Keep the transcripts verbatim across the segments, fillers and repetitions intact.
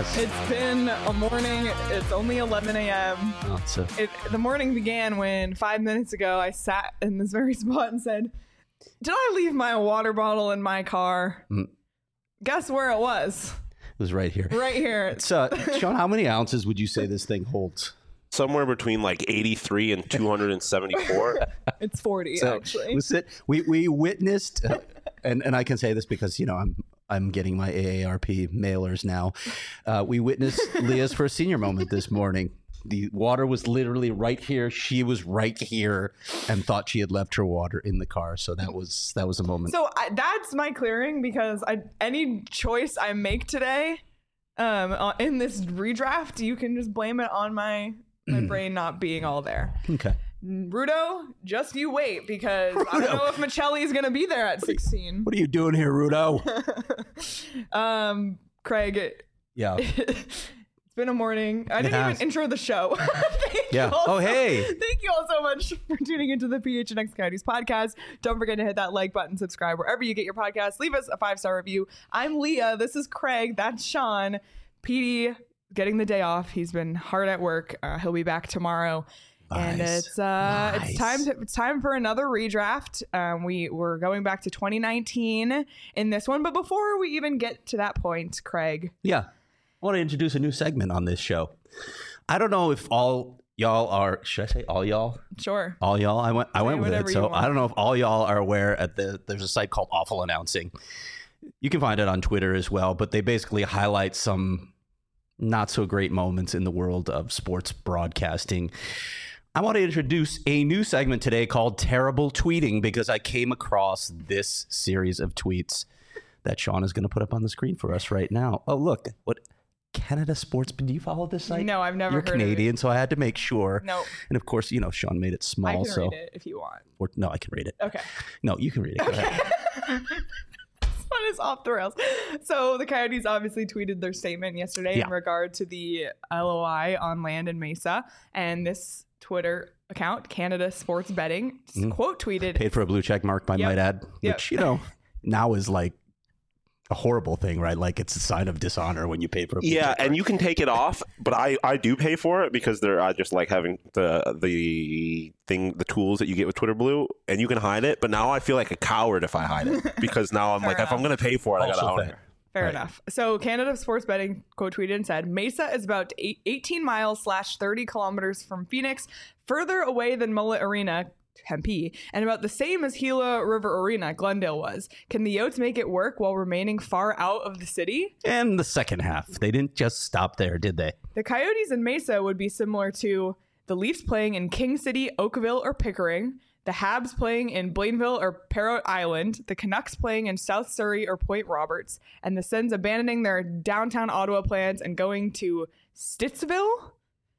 It's been a morning. It's only eleven a.m. Oh, so. It, the morning began when five minutes ago I sat in this very spot and said, did I leave my water bottle in my car? Mm. Guess where it was? It was right here. Right here. It's, uh, Sean, how many ounces would you say this thing holds? Somewhere between like eighty-three and two hundred seventy-four. It's forty, So, actually. Was it, we, we witnessed, uh, and, and I can say this because, you know, I'm I'm getting my A A R P mailers now. Uh, we witnessed Leah's first senior moment this morning. The water was literally right here. She was right here and thought she had left her water in the car. So that was that was a moment. So I, that's my clearing because I any choice I make today um, uh, in this redraft, you can just blame it on my my brain not being all there. Okay. Rudo, just you wait because Rudo. I don't know if Michelli is going to be there at sixteen. What are you doing here, Rudo? um, Craig. It, Yeah. It's been a morning. I It didn't has. even intro the show. Thank Yeah. you all Oh, so- hey. Thank you all so much for tuning into the P H N X Coyotes podcast. Don't forget to hit that like button, subscribe wherever you get your podcasts. Leave us a five-star review. I'm Leah. This is Craig. That's Sean. P D getting the day off. He's been hard at work. Uh, he'll be back tomorrow. And Nice. it's uh, Nice. it's time to, it's time for another redraft. Um, we we're going back to twenty nineteen in this one, but before we even get to that point, Craig, Yeah. I want to introduce a new segment on this show. I don't know if all y'all are, should I say all y'all? sure. All y'all? I went I Say went with whatever it. you So want. I don't know if all y'all are aware at the there's a site called Awful Announcing. You can find it on Twitter as well, but they basically highlight some not so great moments in the world of sports broadcasting. I want to introduce a new segment today called Terrible Tweeting because I came across this series of tweets that Sean is going to put up on the screen for us right now. Oh, look, what Canada Sports. Do you follow this site? No, I've never You're heard Canadian, of it. so I had to make sure. No, And of course, you know, Sean made it small. I can so read it if you want. Or, no, I can read it. Okay. No, you can read it. Go ahead. This one is off the rails. So the Coyotes obviously tweeted their statement yesterday Yeah. in regard to the L O I on land in Mesa, and this Twitter account, Canada Sports Betting, Mhm. quote tweeted. Paid for a blue check mark, I Yep. might add, Yep. which, you know, now is like a horrible thing, right? Like it's a sign of dishonor when you pay for a blue Yeah, check and mark. you can take it off, but I, I do pay for it because they're I just like having the the thing the tools that you get with Twitter Blue, and you can hide it. But now I feel like a coward if I hide it because now I'm Fair like if I'm enough. going to pay for it, I got to Also own fair. it. Fair Right. enough. So Canada Sports Betting quote tweeted and said, Mesa is about eight, eighteen miles slash thirty kilometers from Phoenix, further away than Mullet Arena, Tempe, and about the same as Gila River Arena, Glendale was. Can the Yotes make it work while remaining far out of the city? And the second half, they didn't just stop there, did they? The Coyotes in Mesa would be similar to the Leafs playing in King City, Oakville, or Pickering, the Habs playing in Blainville or Parrot Island, the Canucks playing in South Surrey or Point Roberts, and the Sens abandoning their downtown Ottawa plans and going to Stittsville.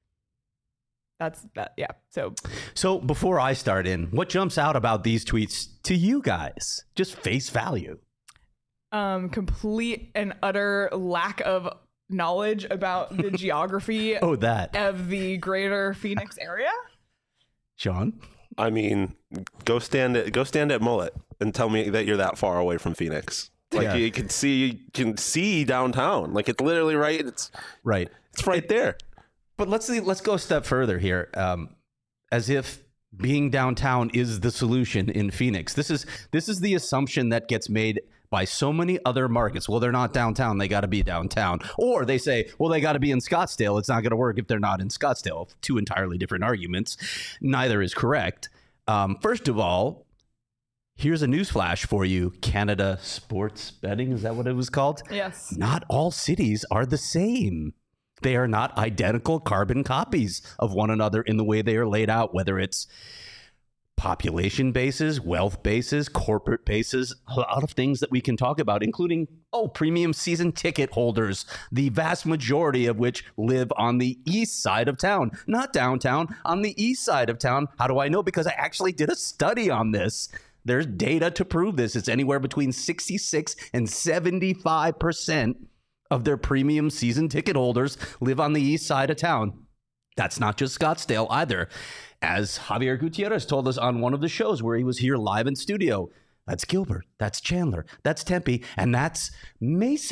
That's that. Yeah. So So before I start in, what jumps out about these tweets to you guys? Just face value. um, complete and utter lack of knowledge about the geography Oh, that. of the greater Phoenix area. Sean? I mean, go stand at go stand at Mullet and tell me that you're that far away from Phoenix. Like Yeah. you can see you can see downtown. Like it's literally right. It's Right. it's right there. But let's see, let's go a step further here. Um, as if being downtown is the solution in Phoenix. This is this is the assumption that gets made by so many other markets. Well, they're not downtown; they got to be downtown. Or they say, well, they got to be in Scottsdale. It's not going to work if they're not in Scottsdale. Two entirely different arguments. Neither is correct. Um, first of all, here's a newsflash for you: Canada Sports Betting, is that what it was called? Yes. Not all cities are the same. They are not identical carbon copies of one another in the way they are laid out, whether it's population bases, wealth bases, corporate bases, a lot of things that we can talk about, including, oh, premium season ticket holders, the vast majority of which live on the east side of town, not downtown, on the east side of town. How do I know? Because I actually did a study on this. There's data to prove this. It's anywhere between sixty-six and seventy-five percent of their premium season ticket holders live on the east side of town. That's not just Scottsdale either. As Javier Gutierrez told us on one of the shows where he was here live in studio, that's Gilbert, that's Chandler, that's Tempe, and that's Mesa.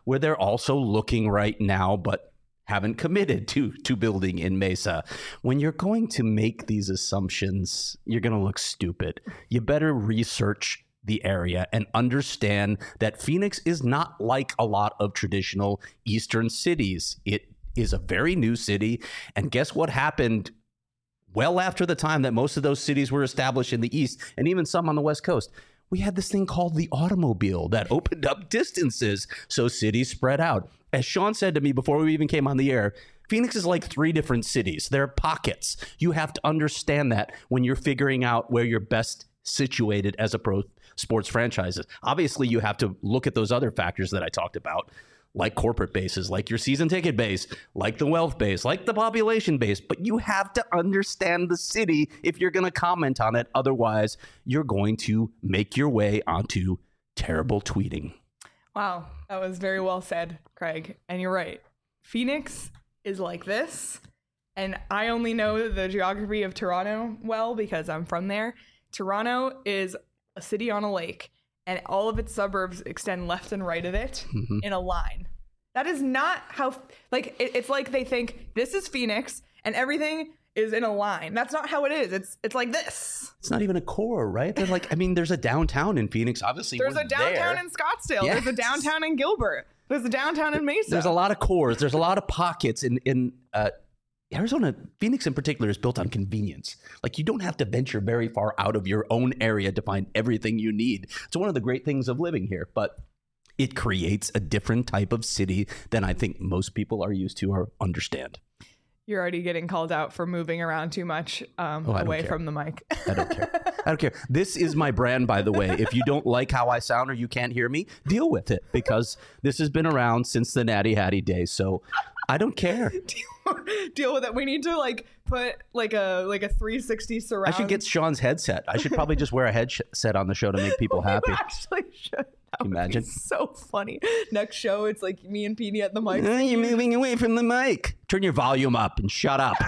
where they're also looking right now, but haven't committed to to building in Mesa. When you're going to make these assumptions, you're going to look stupid. You better research the area and understand that Phoenix is not like a lot of traditional Eastern cities. It is a very new city. And guess what happened well after the time that most of those cities were established in the East, and even some on the West Coast? We had this thing called the automobile that opened up distances so cities spread out. As Sean said to me before we even came on the air, Phoenix is like three different cities. There are pockets. You have to understand that when you're figuring out where you're best situated as a pro sports franchises. Obviously, you have to look at those other factors that I talked about, like corporate bases, like your season ticket base, like the wealth base, like the population base. But you have to understand the city if you're going to comment on it. Otherwise, you're going to make your way onto terrible tweeting. Wow, that was very well said, Craig. And you're right. Phoenix is like this. And I only know the geography of Toronto well because I'm from there. Toronto is a city on a lake, and all of its suburbs extend left and right of it mm-hmm. in a line. That is not how, like, it, it's like they think this is Phoenix and everything is in a line. That's not how it is. It's it's like this. It's not even a core, right? They're like, I mean, there's a downtown in Phoenix. Obviously, there's we're a downtown there. in Scottsdale. Yes. There's a downtown in Gilbert. There's a downtown in Mesa. There's a lot of cores. There's a lot of pockets in in uh, Arizona. Phoenix in particular is built on convenience. Like, you don't have to venture very far out of your own area to find everything you need. It's one of the great things of living here, but it creates a different type of city than I think most people are used to or understand. You're already getting called out for moving around too much um, oh, away care. from the mic. I don't care. I don't care. This is my brand, by the way. If you don't like how I sound or you can't hear me, deal with it, because this has been around since the Natty Hattie days. So I don't care. deal, deal with it. We need to like put like a like a three sixty surround. I should get Sean's headset. I should probably just wear a headset on the show to make people happy. You actually should. That Can you imagine? So funny. Next show, it's like me and Petey at the mic. Oh, you're moving away from the mic. Turn your volume up and shut up.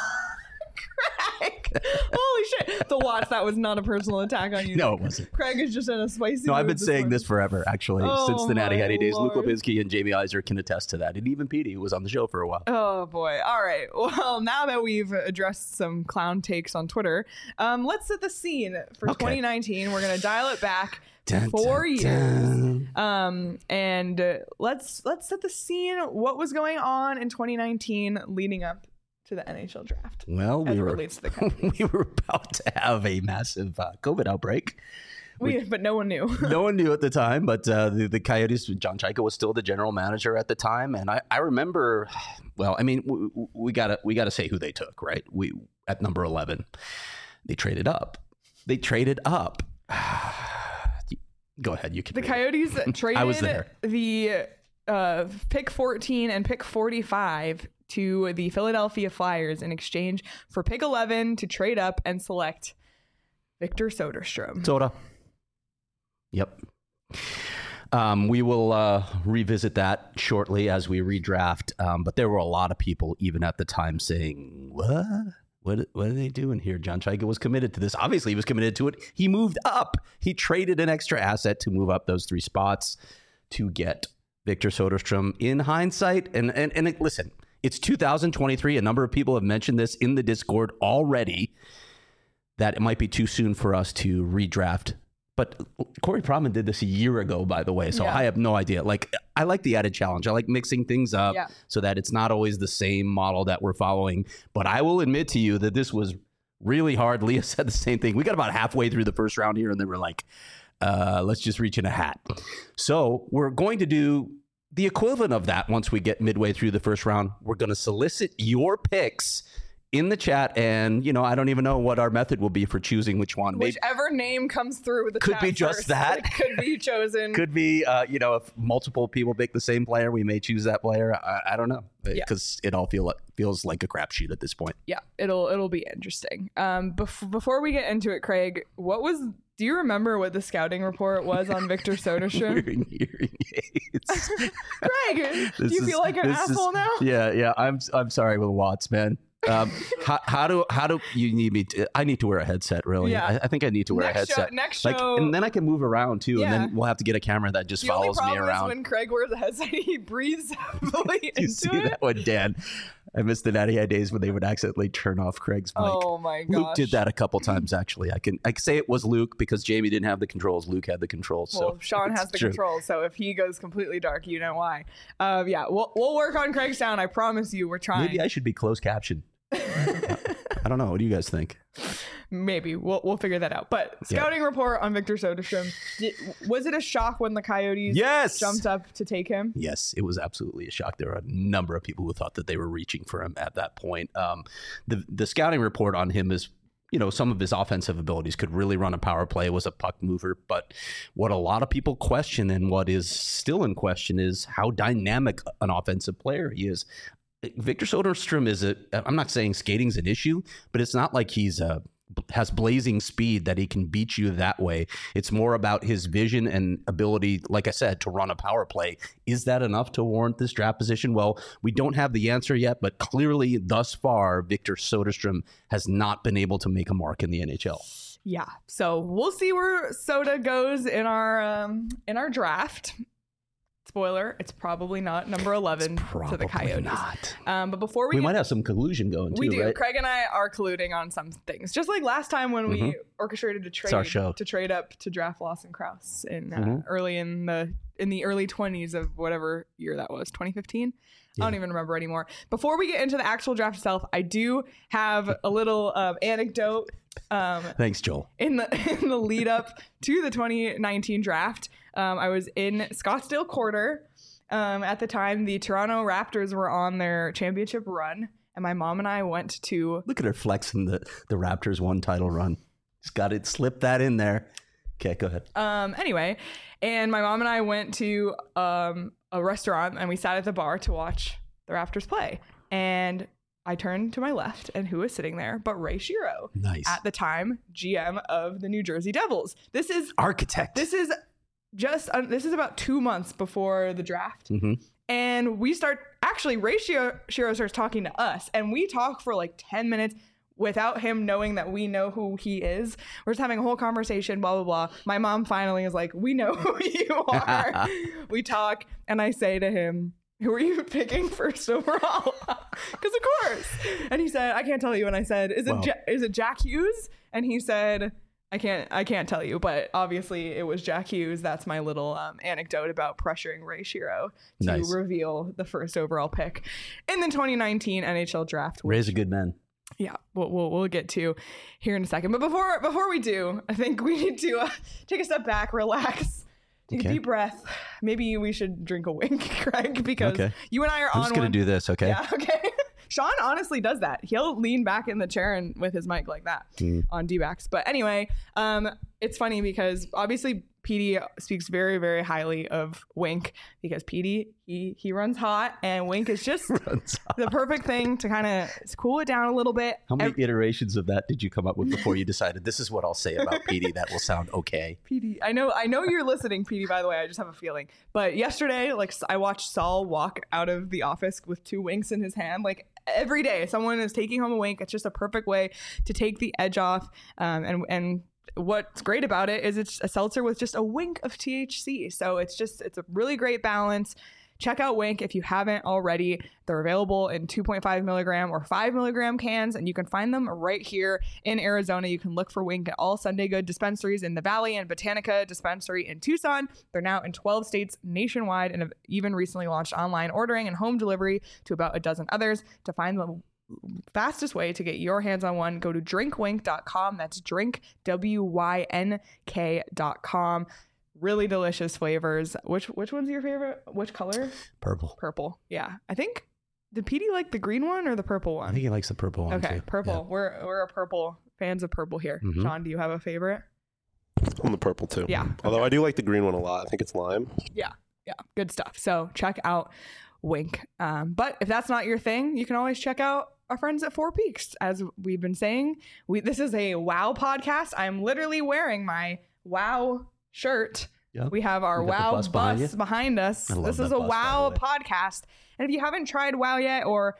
Craig. Holy shit. The watch, that was not a personal attack on you. No, it wasn't. Craig is just in a spicy No, I've been mood saying morning. this forever, actually, Oh, since the Natty my Hattie days. Lord. Luke Lipinski and Jamie Iser can attest to that. And even Petey, who was on the show for a while. Oh, boy. All right. Well, now that we've addressed some clown takes on Twitter, um, let's set the scene for Okay. twenty nineteen. We're going to dial it back Dun, four dun, years. dun. Um, and uh, let's let's set the scene. What was going on in twenty nineteen leading up to the N H L draft? Well, as we it were, relates to the Coyotes. we were about to have a massive uh, COVID outbreak. We, but no one knew. No one knew at the time, but uh, the, the Coyotes, John Chaika was still the general manager at the time. And I, I remember, well, I mean, we, we gotta we gotta say who they took, right? We at number eleven, they traded up. They traded up. Go ahead, you can. The read it. Coyotes traded I was there. the uh, pick fourteen and pick forty-five to the Philadelphia Flyers in exchange for pick eleven to trade up and select Victor Soderstrom. Soda. Yep. Um, we will uh, revisit that shortly as we redraft. Um, but there were a lot of people, even at the time, saying, "What? What? What are they doing here?" John Chaika was committed to this. Obviously, he was committed to it. He moved up. He traded an extra asset to move up those three spots to get Victor Soderstrom. In hindsight, and and and it, listen, it's two thousand twenty-three. A number of people have mentioned this in the Discord already, that it might be too soon for us to redraft. But Corey Prodman did this a year ago, by the way, so Yeah. I have no idea. Like, I like the added challenge. I like mixing things up Yeah. so that it's not always the same model that we're following. But I will admit to you that this was really hard. Leah said the same thing. We got about halfway through the first round here, and then we're like, uh, let's just reach in a hat. So we're going to do the equivalent of that once we get midway through the first round. We're going to solicit your picks in the chat, and you know, I don't even know what our method will be for choosing which one. Maybe, Whichever name comes through with the Could chat be just first, that. it could be chosen. could be, uh, you know, if multiple people pick the same player, we may choose that player. I, I don't know, because it all feel feels like a crapshoot at this point. Yeah, it'll it'll be interesting. Um, bef- before we get into it, Craig, what was? Do you remember what the scouting report was on Victor Soderstrom? Wearing hearing aids. Craig, do This you is- feel like an this is- asshole now? Yeah, yeah. I'm I'm sorry with Watts, man. Um, how, how do how do you need me? To, I need to wear a headset. Really, Yeah. I, I think I need to wear next a headset. Show, next like, show, and then I can move around too, and Yeah. then we'll have to get a camera that just the follows only me problem around. is when Craig wears a headset, he breathes heavily you into see it. that one, Dan? I missed the Natty High days when they would accidentally turn off Craig's mic. Oh my gosh. Luke did that a couple times actually. I can I can say it was Luke because Jamie didn't have the controls. Luke had the controls. Well, so Sean it's has the true. controls, so if he goes completely dark, you know why. Um, yeah, we'll we'll work on Craig's sound. I promise you, we're trying. Maybe I should be closed caption. I don't know. What do you guys think? Maybe we'll we'll figure that out. But scouting report on Victor Soderstrom. Did, was it a shock when the Coyotes Yes. jumped up to take him? Yes, it was absolutely a shock. There were a number of people who thought that they were reaching for him at that point. Um, the the scouting report on him is, you know, some of his offensive abilities, could really run a power play, was a puck mover. But what a lot of people question, and what is still in question, is how dynamic an offensive player he is. Victor Soderstrom is a, I'm not saying skating's an issue, but it's not like he's a, has blazing speed that he can beat you that way. It's more about his vision and ability, like I said, to run a power play. Is that enough to warrant this draft position? Well, we don't have the answer yet, but clearly thus far, Victor Soderstrom has not been able to make a mark in the N H L. Yeah. So we'll see where Soda goes in our um, in our draft. Spoiler, it's probably not number eleven Probably to the Coyotes. not. Um, but before we, We get, might have some collusion going too, we do. right? Craig and I are colluding on some things, just like last time when we orchestrated a trade our show. to trade up to draft Lawson Krause in uh, Mhm. early in the in the early twenties of whatever year that was, twenty fifteen. I don't even remember anymore. Before we get into the actual draft itself, I do have a little um, anecdote. Um, Thanks, Joel. in the in the lead up to the twenty nineteen draft, um, I was in Scottsdale Quarter. Um, at the time, the Toronto Raptors were on their championship run, and my mom and I went to. Look at her flexing the, the Raptors one title run. Just got it, slip that in there. Okay, go ahead. Um, anyway, and my mom and I went to um, a restaurant, and we sat at the bar to watch the Raptors play. And I turned to my left, and who was sitting there but Ray Shero, Nice. at the time G M of the New Jersey Devils. This is Architect. this is just uh, this is about two months before the draft. hmm And we start, actually, Ray Shero, Shero starts talking to us, and we talk for like ten minutes without him knowing that we know who he is. We're just having a whole conversation, blah, blah, blah. My mom finally is like, we know who you are. We talk, and I say to him, who are you picking first overall? Because of course. And he said, I can't tell you. And I said, is it, Wow. ja- is it Jack Hughes? And he said, I can't I can't tell you, but obviously it was Jack Hughes. That's my little um, anecdote about pressuring Ray Shero to Nice. reveal the first overall pick in the twenty nineteen N H L draft. Which, Ray's a good man. yeah, we'll, we'll we'll get to here in a second. But before before we do, I think we need to uh, take a step back, relax, take Okay. a deep breath. Maybe we should drink a wink, Craig, because Okay. you and I are I'm on just going one. to do this, okay? Yeah, okay. Sean honestly does that. He'll lean back in the chair and with his mic like that Mm. on D-backs. But anyway, um, it's funny because obviously P D speaks very, very highly of Wink because P D, he, he runs hot and Wink is just Runs off. the perfect thing to kind of cool it down a little bit. How many Ev- iterations of that did you come up with before you decided this is what I'll say about P D that will sound okay? P D, I know, I know you're listening, P D. By the way, I just have a feeling. But yesterday, like I watched Saul walk out of the office with two winks in his hand. Like every day, someone is taking home a wink. It's just a perfect way to take the edge off. Um, and and what's great about it is it's a seltzer with just a wink of T H C. So it's just it's a really great balance. Check out Wink if you haven't already. They're available in two point five milligram or five milligram cans, and you can find them right here in Arizona. You can look for Wink at all Sunday Good dispensaries in the Valley and Botanica dispensary in Tucson. They're now in twelve states nationwide and have even recently launched online ordering and home delivery to about a dozen others. To find the fastest way to get your hands on one, go to drink wink dot com. That's drink, W Y N K dot com. Really delicious flavors. Which which one's your favorite? Which color? Purple. Purple. Yeah. I think, did P D like the green one or the purple I one? think he likes the purple one Okay, too. purple. We're we're a purple fans of purple here. Mhm. Sean, do you have a favorite? I'm the purple too. Yeah. Although I do like the green one a lot. I think it's lime. Yeah, yeah, good stuff. So check out Wink. Um, but if that's not your thing, you can always check out our friends at Four Peaks. As we've been saying, we this is a WoW podcast. I'm literally wearing my WoW shirt. Yep. We have our We got the WoW bus bus behind you. behind us. I love This is that a bus, by WoW the way. podcast. And if you haven't tried WoW yet, or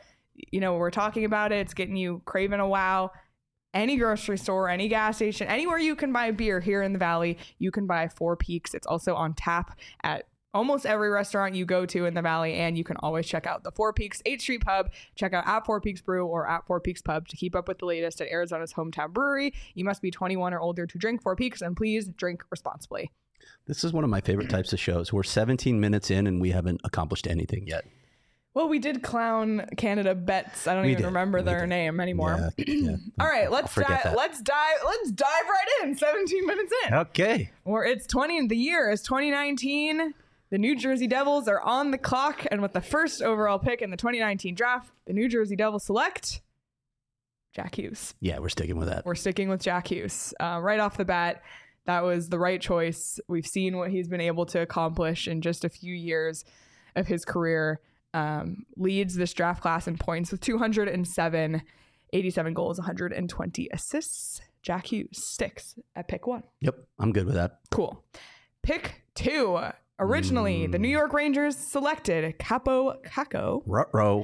you know, we're talking about it. It's getting you craving a wow. Any grocery store, any gas station, anywhere you can buy beer here in the Valley, you can buy Four Peaks. It's also on tap at almost every restaurant you go to in the Valley, and you can always check out the Four Peaks eighth Street Pub. Check out at Four Peaks Brew or at Four Peaks Pub to keep up with the latest at Arizona's hometown brewery. You must be twenty-one or older to drink Four Peaks, and please drink responsibly. This is one of my favorite types of shows. We're seventeen minutes in and we haven't accomplished anything yet. Well, we did clown Canada Betts. I don't We even did. remember We their did. name anymore. Yeah, yeah. All right, I'll let's forget dive. that. Let's dive. Let's dive right in. seventeen minutes in. Okay. Or it's twenty. The year is twenty nineteen. The New Jersey Devils are on the clock, and with the first overall pick in the twenty nineteen draft, the New Jersey Devils select Jack Hughes. Yeah, we're sticking with that. We're sticking with Jack Hughes. Uh, right off the bat, that was the right choice. We've seen what he's been able to accomplish in just a few years of his career. Um, leads this draft class in points with two hundred seven, eighty-seven goals, one hundred twenty assists. Jack Hughes sticks at pick one. Yep, I'm good with that. Cool. Pick two. Originally, Mm. the New York Rangers selected Capo Caco. Ruh-roh.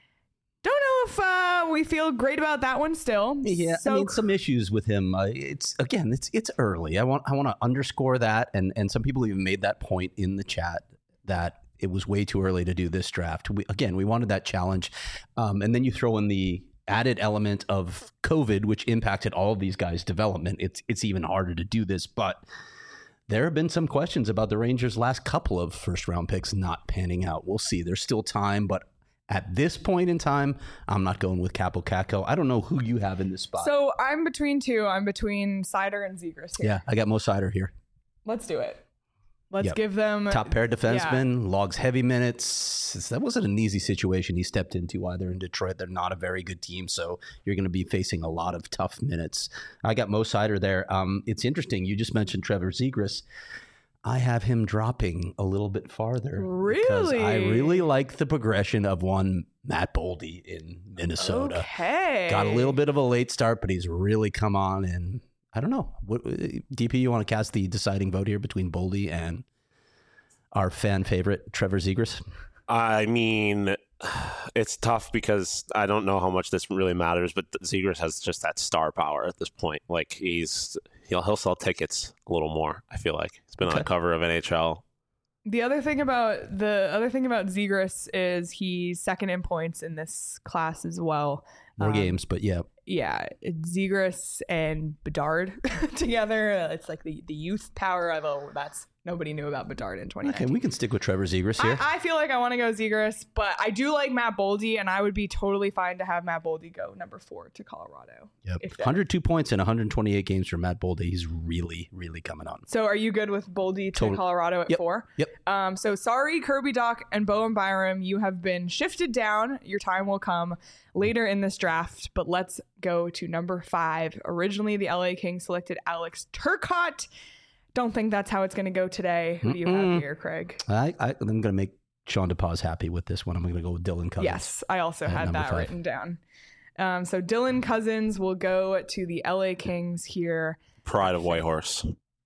Don't know if uh, we feel great about that one still. Yeah, So I mean, some issues with him. Uh, it's again, it's it's early. I want I want to underscore that, and and some people even made that point in the chat that it was way too early to do this draft. We, again, we wanted that challenge, um, and then you throw in the added element of COVID, which impacted all of these guys' development. It's it's even harder to do this, but there have been some questions about the Rangers' last couple of first round picks not panning out. We'll see. There's still time, but at this point in time, I'm not going with Capo Caco. I don't know who you have in this spot. So I'm between two. I'm between Cider and Zegras here. yeah, I got Mo Sider here. Let's do it. Let's Yep. give them Top pair defenseman, logs heavy minutes. That wasn't an easy situation he stepped into either in Detroit. They're not a very good team, so you're going to be facing a lot of tough minutes. I got Mo Sider there. Um, it's interesting. You just mentioned Trevor Zegras. I have him dropping a little bit farther. Because I Really? really like the progression of one Matt Boldy in Minnesota. Okay. Got a little bit of a late start, but he's really come on. And I don't know. What, D P, you want to cast the deciding vote here between Boldy and our fan favorite, Trevor Zegras? I mean, it's tough because I don't know how much this really matters, but Zegras has just that star power at this point. Like he's he'll he'll sell tickets a little more. I feel like he's been on Okay. the cover of N H L. The other thing about the other thing about Zegras is he's second in points in this class as well. More Um, games, but yeah. Yeah, Zegras and Bedard together. It's like the, the youth power. Although that's nobody knew about Bedard in twenty nineteen. Okay, we can stick with Trevor Zegras here. I, I feel like I want to go Zegras, but I do like Matt Boldy, and I would be totally fine to have Matt Boldy go number four to Colorado. yep. if that- one hundred two points in one hundred twenty-eight games for Matt Boldy. He's really, really coming on. So are you good with Boldy to Totally. Colorado at Yep. four? Yep. Um, so sorry, Kirby Doc and Bowen Byram, you have been shifted down. Your time will come later in this draft, but let's go to number five. Originally, the L A Kings selected Alex Turcotte. Don't think that's how it's going to go today. Who do you Mm-mm. have here, Craig? I, I, I'm going to make Sean DePaz happy with this one. I'm going to go with Dylan Cousins. Yes, I also At had number that five. written down. Um, so Dylan Cousins will go to the L A Kings here. Pride of Whitehorse.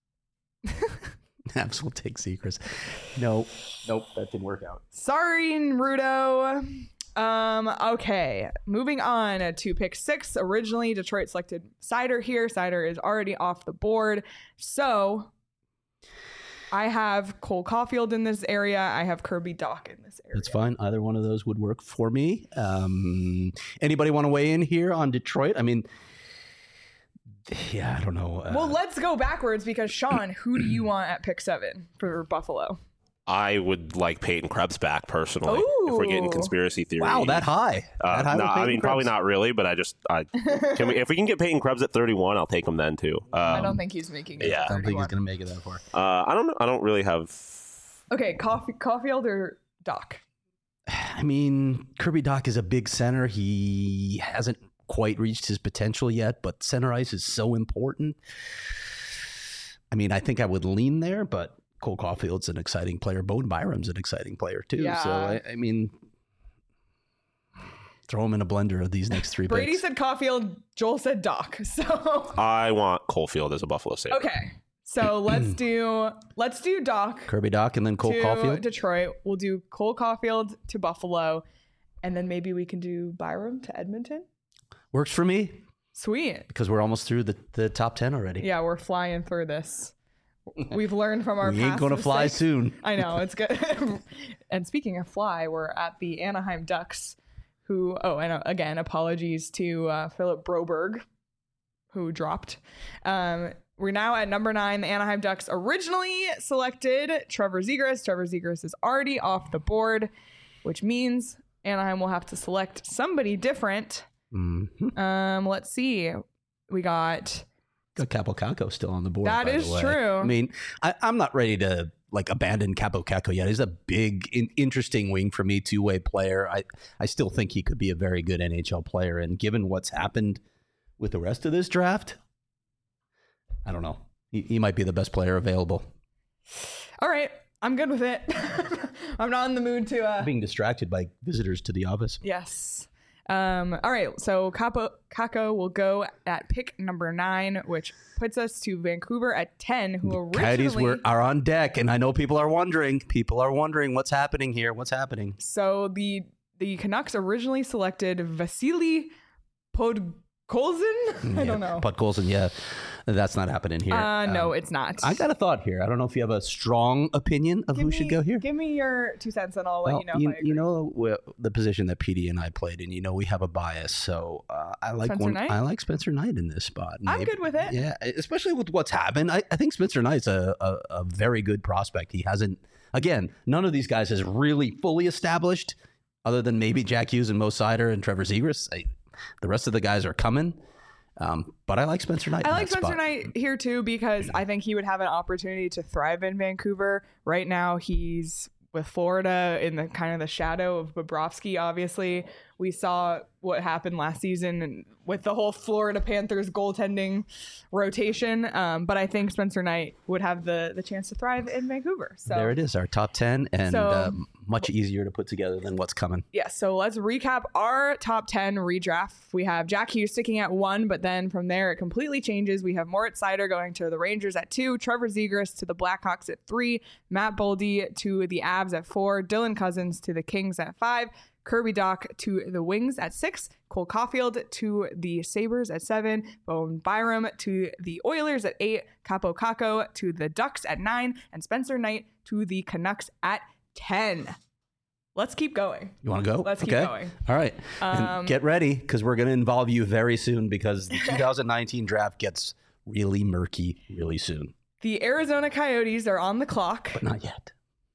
Abs will take Zegras. No, nope, that didn't work out. Sorry, Naruto. Um, okay, moving on to pick six. Originally, Detroit selected Cider here. Cider is already off the board. So I have Cole Caulfield in this area. I have Kirby Doc in this area. That's fine. Either one of those would work for me. Um, anybody want to weigh in here on Detroit? I mean, yeah, I don't know. Uh, Well, let's go backwards because Sean, who do you want at pick seven for Buffalo? I would like Peyton Krebs back personally. If we're getting Ooh. conspiracy theory. wow, that high. Uh, that high no, with I Peyton mean probably Krebs. not really, but I just I can we if we can get Peyton Krebs at thirty-one, I'll take him then too. Um, I don't think he's making it. yeah. to I don't think he's thirty-one. going to make it that far. uh, I don't know. I don't really have. Okay, Caulf- Caulfield or Doc? I mean, Kirby Doc is a big center. He hasn't quite reached his potential yet, but center ice is so important. I mean, I think I would lean there, but Cole Caulfield's an exciting player. Bowen Byram's an exciting player too. Yeah. So I, I mean, throw him in a blender of these next three Brady picks. said Caulfield. Joel said Doc. So I want Coalfield as a Buffalo Sabre. okay, so let's do let's do Doc Kirby Doc and then Cole to Caulfield. Detroit. We'll do Cole Caulfield to Buffalo, And then maybe we can do Byram to Edmonton. Works for me Sweet. because we're almost through the, the top ten already. Yeah, we're flying through this. We've learned from our We past ain't going to fly mistakes. soon. I know, it's good. And speaking of fly, we're at the Anaheim Ducks, who, oh, and uh, again, apologies to uh, Philip Broberg, who dropped. Um, we're now at number nine. The Anaheim Ducks originally selected Trevor Zegras. Trevor Zegras is already off the board, which means Anaheim will have to select somebody different. Mm-hmm. Um, let's see. We got... Got Capo Caco still on the board. That by is the way. true. I mean, I, I'm not ready to like abandon Capo Caco yet. He's a big, in, interesting wing for me, two way player. I, I still think he could be a very good N H L player. And given what's happened with the rest of this draft, I don't know. He, he might be the best player available. All right. I'm good with it. I'm not in the mood to... Uh... Being distracted by visitors to the office. Yes. Um, all right, so Capo Caco will go at pick number nine, which puts us to Vancouver at ten, who originally... Coyotes were, are on deck, and I know people are wondering. People are wondering what's happening here. What's happening? So the the Canucks originally selected Vasily Podkolzin? I don't know. Podkolzin, yeah. That's not happening here. Uh, no, Um, it's not. I got a thought here. I don't know if you have a strong opinion of Give who me- should go here. Give me your two cents and I'll Well, let you know you, if I agree. you know well, the position that P D and I played in. You know we have a bias, so uh, I like Spencer one. Knight? I like Spencer Knight in this spot. I'm Maybe- good with it. Yeah, especially with what's happened. I, I think Spencer Knight's a, a a very good prospect. He hasn't. Again, none of these guys has really fully established, other than maybe Jack Hughes and Mo Sider and Trevor Zegras. I, the rest of the guys are coming. Um, but I like Spencer Knight. I in like that Spencer spot. Knight here too because I think he would have an opportunity to thrive in Vancouver. Right now, he's with Florida in the kind of the shadow of Bobrovsky. Obviously, we saw what happened last season and with the whole Florida Panthers goaltending rotation. Um, but I think Spencer Knight would have the the chance to thrive in Vancouver. So There it is, our top ten, and So- uh, much easier to put together than what's coming. yeah, so let's recap our top ten redraft. We have Jack Hughes sticking at one, but then from there it completely changes. We have Moritz Seider going to the Rangers at two, Trevor Zegras to the Blackhawks at three, Matt Boldy to the Avs at four, Dylan Cousins to the Kings at five, Kirby Doc to the Wings at six, Cole Caulfield to the Sabres at seven, Bowen Byram to the Oilers at eight, Capo Caco to the Ducks at nine, and Spencer Knight to the Canucks at ten. Let's keep going. You want to go? Let's keep okay. going. All right. Um, and get ready because we're going to involve you very soon because the two thousand nineteen draft gets really murky really soon. The Arizona Coyotes are on the clock. But not yet.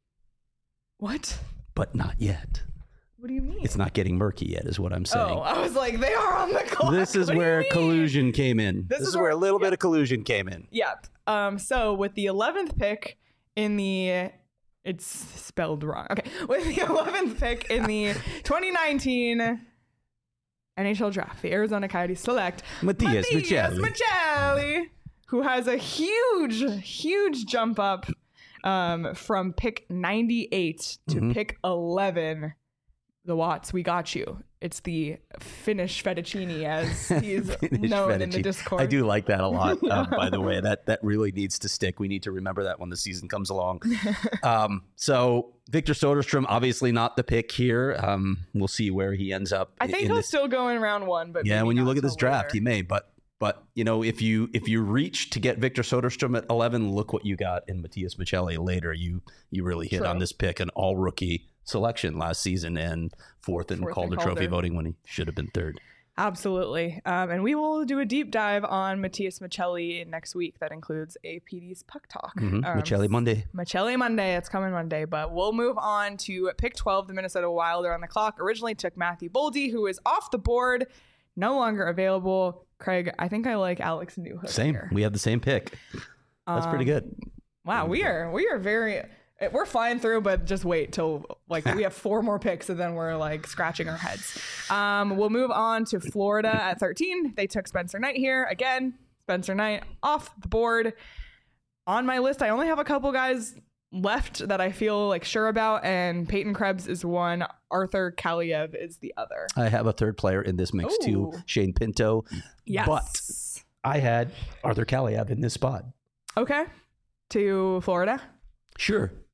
What? But not yet. What do you mean? It's not getting murky yet is what I'm saying. Oh, I was like, they are on the clock. This is What do you where mean? collusion came in. This This, is is where, where- a little yeah. bit of collusion came in. Yep. Um. So with the eleventh pick in the, it's spelled wrong. Okay. With the eleventh pick in the twenty nineteen N H L draft, the Arizona Coyotes select Matthias Matthias Michelli. Michelli, who has a huge, huge jump up um, from pick ninety-eight to Mhm. pick eleven. The Watts, we got you. It's the Finnish fettuccine, as he's Finnish known in the fettuccine. Discord. I do like that a lot, um, by the way. That that really needs to stick. We need to remember that when the season comes along. Um, so Victor Soderstrom, obviously not the pick here. Um, we'll see where he ends up. I think in he'll this. still go in round one, but Yeah, maybe when you not look at this till draft, later. he may. But but you know, if you if you reach to get Victor Soderstrom at eleven, look what you got in Matthias Michelli later. You you really hit True. on this pick, an all rookie selection last season and fourth in Fourth in Calder Calder. Trophy voting when he should have been third. Absolutely. Um, and we will do a deep dive on Matthias Michelli next week. That includes A P D's Puck Talk. Mm-hmm. Um, Michelli Monday. Michelli Monday. It's coming Monday. But we'll move on to pick twelve. The Minnesota Wild are on the clock. Originally took Matthew Boldy, who is off the board, no longer available. Craig, I think I like Alex Newhook Same. here. We have the same pick. That's pretty Um, good. Wow, we are we are very we're flying through, but just wait till like we have four more picks and then we're like scratching our heads. Um, we'll move on to Florida at thirteen. They took Spencer Knight here again. Spencer Knight off the board. On my list, I only have a couple guys left that I feel like sure about, and Peyton Krebs is one. Arthur Kaliev is the other. I have a third player in this mix too, Ooh. Shane Pinto. Yes. But I had Arthur Kaliev in this spot. Okay. To Florida. Sure.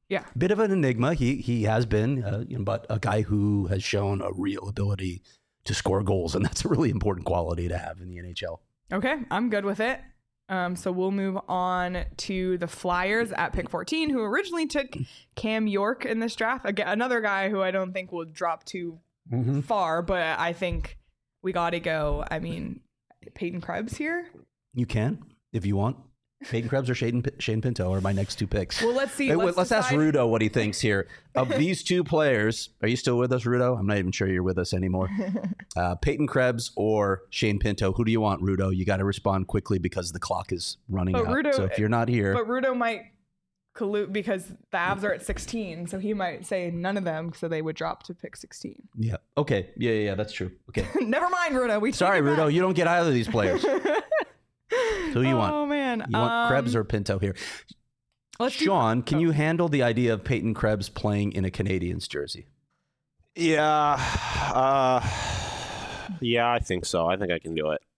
Yeah. Bit of an enigma. He he has been, uh, you know, but a guy who has shown a real ability to score goals, and that's a really important quality to have in the N H L. Okay, I'm good with it. Um, so we'll move on to the Flyers at pick fourteen, who originally took Cam York in this draft. Again, another guy who I don't think will drop too Mm-hmm. far, but I think we got to go. I mean, Peyton Krebs here. You can, if you want. Peyton Krebs or Shane, Shane Pinto are my next two picks. Well, let's see. Hey, let's let's ask decide. Rudo what he thinks here. Of these two players, are you still with us, Rudo? I'm not even sure you're with us anymore. Uh, Peyton Krebs or Shane Pinto? Who do you want, Rudo? You got to respond quickly because the clock is running But out. Rudo- so if you're not here, But Rudo might collude because the Avs are at sixteen, so he might say none of them, so they would drop to pick sixteen. yeah, okay, yeah, yeah, yeah, that's true. Okay, Never mind, Rudo. We sorry, take it Rudo, you don't get either of these players. back. Who you want? Oh man, You want um, Krebs or Pinto here? let's do- Sean, can oh. you handle the idea of Peyton Krebs playing in a Canadiens jersey? Yeah. Uh, yeah, I think so. I think I can do it.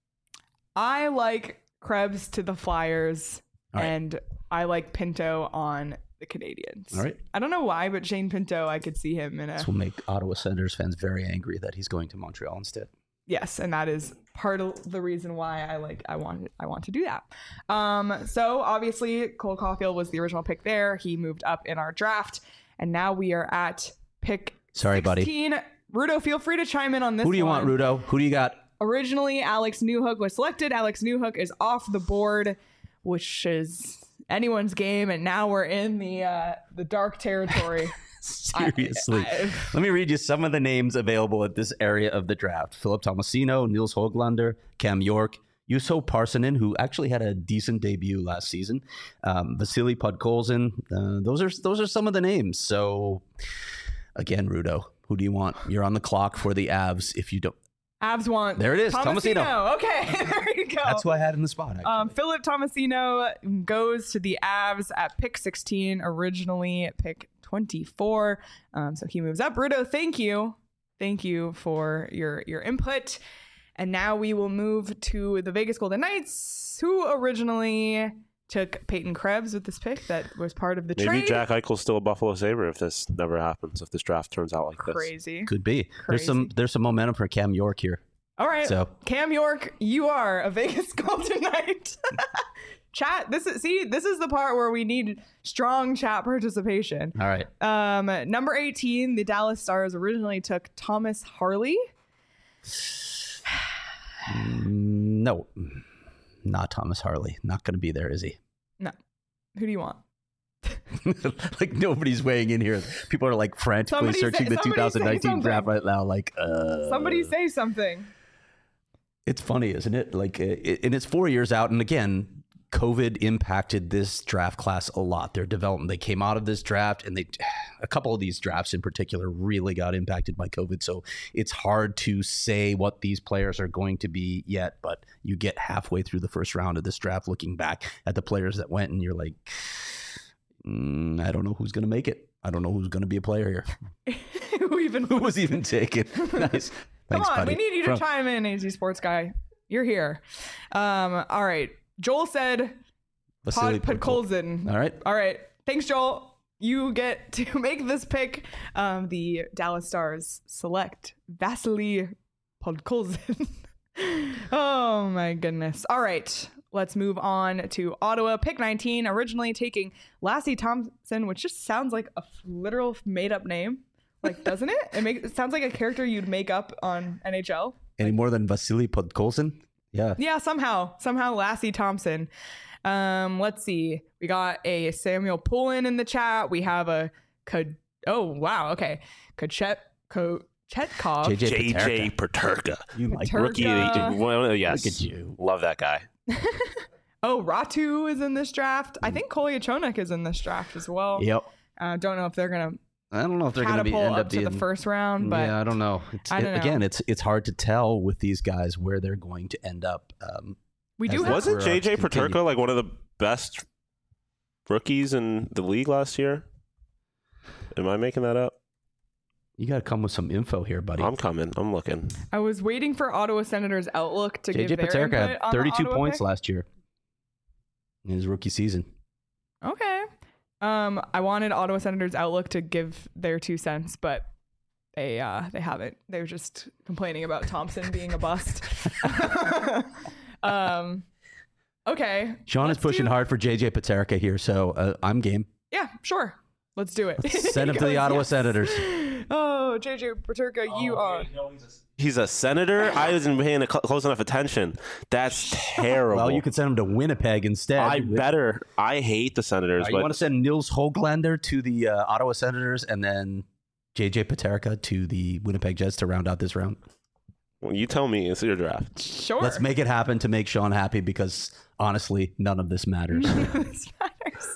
I like Krebs to the Flyers, All right. and I like Pinto on the Canadians. All right. I don't know why, but Shane Pinto, I could see him in a This will make Ottawa Senators fans very angry that he's going to Montreal instead. yes, and that is part of the reason why I like I want I want to do that. Um, so obviously Cole Caulfield was the original pick there. He moved up in our draft, and now we are at pick Sorry, buddy. sixteen. Rudo, feel free to chime in on this. Who do you one. want, Rudo? Who do you got? Originally, Alex Newhook was selected. Alex Newhook is off the board, which is anyone's game, and now we're in the uh, the dark territory. Seriously. I- I- Let me read you some of the names available at this area of the draft. Philip Tomasino, Nils Höglander, Cam York, Juuso Parssinen, who actually had a decent debut last season, um, Vasily Podkolzin. Uh, those are those are some of the names. So, again, Rudo, who do you want? You're on the clock for the Avs. If you don't, Avs want There it is, Tomasino. Tomasino. Okay, there you go. that's who I had in the spot. Actually. Um, Philip Tomasino goes to the Avs at pick sixteen, originally at pick twenty-four. Um, so he moves up. Rudo, thank you. Thank you for your, your input. And now we will move to the Vegas Golden Knights, who originally took Peyton Krebs with this pick that was part of the Maybe trade. Jack Eichel's still a Buffalo Sabre if this never happens, if this draft turns out like this. Crazy. Could be. There's some Crazy. there's some momentum for Cam York here. All right. So Cam York, you are a Vegas Golden Knight. Chat, this is see, this is the part where we need strong chat participation. all right. Um, number eighteen, the Dallas Stars originally took Thomas Harley. Mm, No, not Thomas Harley. Not going to be there, is he? No. Who do you want? Like nobody's weighing in here. People are like frantically Somebody say- searching the somebody say two thousand nineteen draft something. right now. Like, uh, Somebody say something. it's funny, isn't it? Like, uh, it, and it's four years out. And again, COVID impacted this draft class a lot. Their development, they came out of this draft, and they, a couple of these drafts in particular, really got impacted by COVID. So it's hard to say what these players are going to be yet. But you get halfway through the first round of this draft, looking back at the players that went, and you're like, mm, I don't know who's going to make it. I don't know who's going to be a player here. Who even Who was even taken? Nice. Come Thanks, on, buddy. we need you to From- chime in, A Z Sports Guy. You're here. Um, all right. Joel said Vasily Pod Podkol- Podkolzin. All right. All right. Thanks, Joel. You get to make this pick. Um, the Dallas Stars select Vasily Podkolzin. Oh, my goodness. All right. Let's move on to Ottawa. Pick nineteen, originally taking Lassie Thompson, which just sounds like a literal made-up name. Like, doesn't it? It, make, it sounds like a character you'd make up on N H L. Any more than Vasily Podkolzin? Yeah. Yeah, somehow. Somehow Lassie Thompson. Um, let's see. We got a Samuel Poulin in the chat. We have a Ko- oh wow, okay. Kachet Ko- Chetkov. J J J J Paterka. You like Paterka. Rookie of the well, yes. Look at you. Love that guy. Oh, Ratu is in this draft. I think Kolyachonik is in this draft as well. Yep. Uh, don't know if they're gonna I don't know if they're going to be catapult end up up to being the first round, but yeah, I don't know. It's, I don't it- Again, know. it's it's hard to tell with these guys where they're going to end up. Um, we do as have they- Wasn't We're J up to J continue. Paterka like one of the best rookies in the league last year? Am I making that up? you got to come with some info here, buddy. I'm coming. I'm looking. I was waiting for Ottawa Senators Outlook to J J give their Paterka input had on the thirty-two Ottawa points pick. last year in his rookie season. Okay. Um, I wanted Ottawa Senators Outlook to give their two cents, but they uh, they haven't. They're just complaining about Thompson being a bust. um, okay. Sean is let's pushing do- hard for J J Paterka here, so uh, I'm game. Yeah, sure. Let's do it. Send him to the Ottawa Yes. Senators. Oh, J J Paterka, you are. He's a senator. I wasn't paying cl- close enough attention. That's terrible. Well, you could send him to Winnipeg instead. I better. I hate the Senators. Uh, but you want to send Nils Höglander to the uh, Ottawa Senators and then J J Paterka to the Winnipeg Jets to round out this round? Well, you tell me. It's your draft. Sure. Let's make it happen to make Sean happy because honestly, none of this matters. This matters.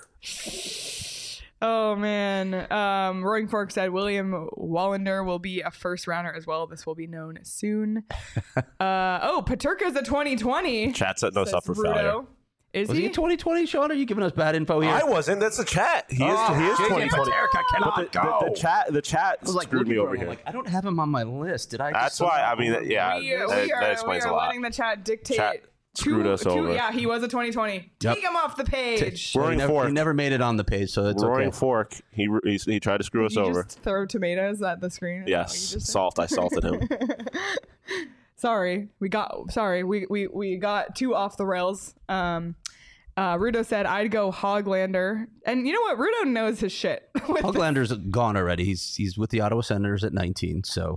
Oh man. Um, Roaring Fork said William Wallander will be a first rounder as well. This will be known soon. uh, oh, Paterka's a twenty twenty. Chat set us says up for Rudo. failure. Is Was he? he twenty twenty, Sean? Are you giving us bad info here? I wasn't. That's the chat. He is. Oh, he is J J twenty twenty. Paterka cannot But the, go. the, the chat. The chat I was like, screwed me looking for over him. I'm here. like, I don't have him on my list. Did I? just That's why. I mean, somehow- yeah. we, that, we that are, explains we are a lot. letting the chat dictate. Chat screwed two- us two- over. Yeah, he was a twenty twenty. Yep. Take him off the page. He Roaring never, Fork. he never made it on the page, so it's Roaring okay. Fork. He, he he tried to screw us Did you over. just throw tomatoes at the screen? Is that what you Yes, just said? salt. I salted him. Sorry, we got sorry, we we we got too off the rails. Um, uh, Rudo said I'd go Hoglander, and you know what? Rudo knows his shit. with the- Höglander's gone already. He's he's with the Ottawa Senators at nineteen. So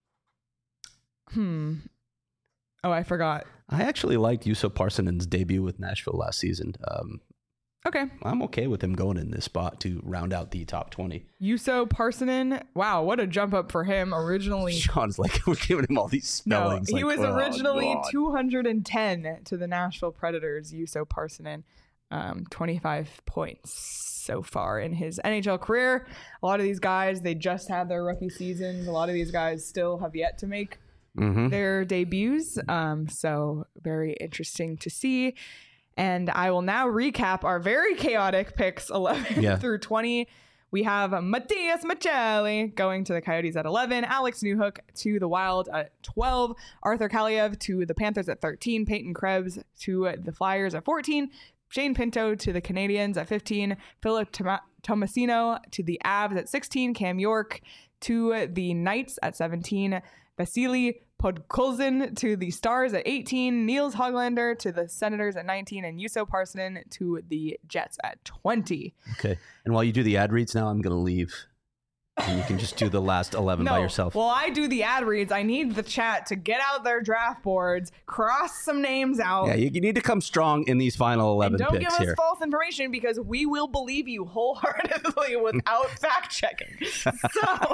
hmm. Oh, I forgot. I actually liked Juuso Parsonen's debut with Nashville last season. Um, Okay, I'm okay with him going in this spot to round out the top twenty. Juuso Parsonen. Wow, what a jump up for him. Originally, Sean's like, we're giving him all these no, spellings. he like, was oh, originally God. two hundred ten to the Nashville Predators. Juuso Parsonen, um, twenty-five points so far in his N H L career. A lot of these guys, they just had their rookie seasons. A lot of these guys still have yet to make Mhm. their debuts. Um, so very interesting to see. And I will now recap our very chaotic picks eleven Yeah. through twenty. We have Matthias Machelli going to the Coyotes at eleven, Alex Newhook to the Wild at twelve, Arthur Kaliev to the Panthers at thirteen, Peyton Krebs to the Flyers at fourteen, Shane Pinto to the Canadiens at fifteen, Philip Toma- Tomasino to the Avs at sixteen, Cam York to the Knights at seventeen, Vasily Podkolzin to the Stars at eighteen, Niels Höglander to the Senators at nineteen, and Juuso Parsonen to the Jets at twenty. Okay. And while you do the ad reads now, I'm going to leave. And you can just do the last eleven by yourself. Well, I do the ad reads. I need the chat to get out their draft boards, cross some names out. Yeah, you, you need to come strong in these final eleven and don't picks give us here. false information because we will believe you wholeheartedly without fact checking. So,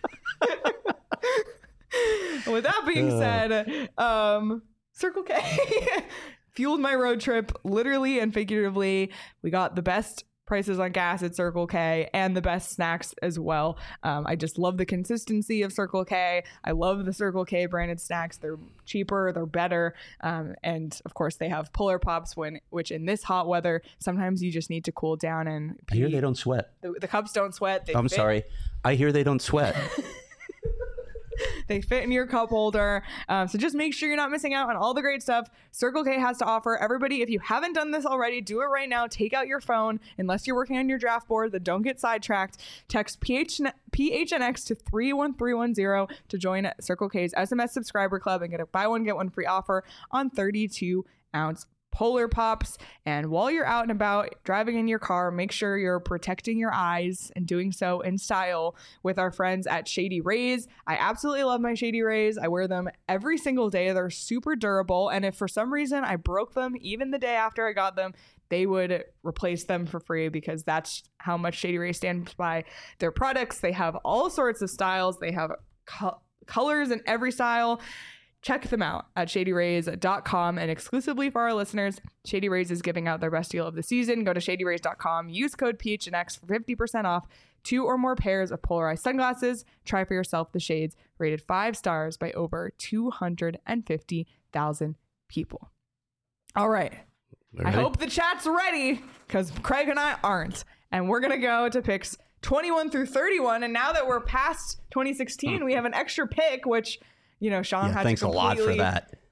with that being Uh. said, um, Circle K fueled my road trip literally and figuratively. We got the best prices on gas at Circle K and the best snacks as well. Um, I just love the consistency of Circle K. I love the Circle K branded snacks. They're cheaper, they're better. Um, and of course they have Polar Pops, when, which in this hot weather, sometimes you just need to cool down and I hear pee. they don't sweat. The, the cups don't sweat. They I'm fit- sorry. I hear they don't sweat. They fit in your cup holder. Um, so just make sure you're not missing out on all the great stuff Circle K has to offer. Everybody, if you haven't done this already, do it right now. Take out your phone. Unless you're working on your draft board, then don't get sidetracked. Text P H N X to three one three one zero to join Circle K's S M S subscriber club and get a buy one, get one free offer on thirty-two ounce Polar Pops. And while you're out and about driving in your car, make sure you're protecting your eyes and doing so in style with our friends at Shady Rays. I absolutely love my Shady Rays. I wear them every single day. They're super durable. And if for some reason I broke them even the day after I got them, they would replace them for free because that's how much Shady Rays stands by their products. They have all sorts of styles. They have co- colors in every style. Check them out at shady rays dot com, and exclusively for our listeners, Shady Rays is giving out their best deal of the season. Go to shady rays dot com, use code P H N X for fifty percent off two or more pairs of polarized sunglasses. Try for yourself the shades rated five stars by over two hundred fifty thousand people. All right. I Ready? hope the chat's ready because Craig and I aren't. And we're going to go to picks twenty-one through thirty-one. And now that we're past twenty sixteen, we have an extra pick, which... You know, Sean Yeah, had thanks to a lot for completely that.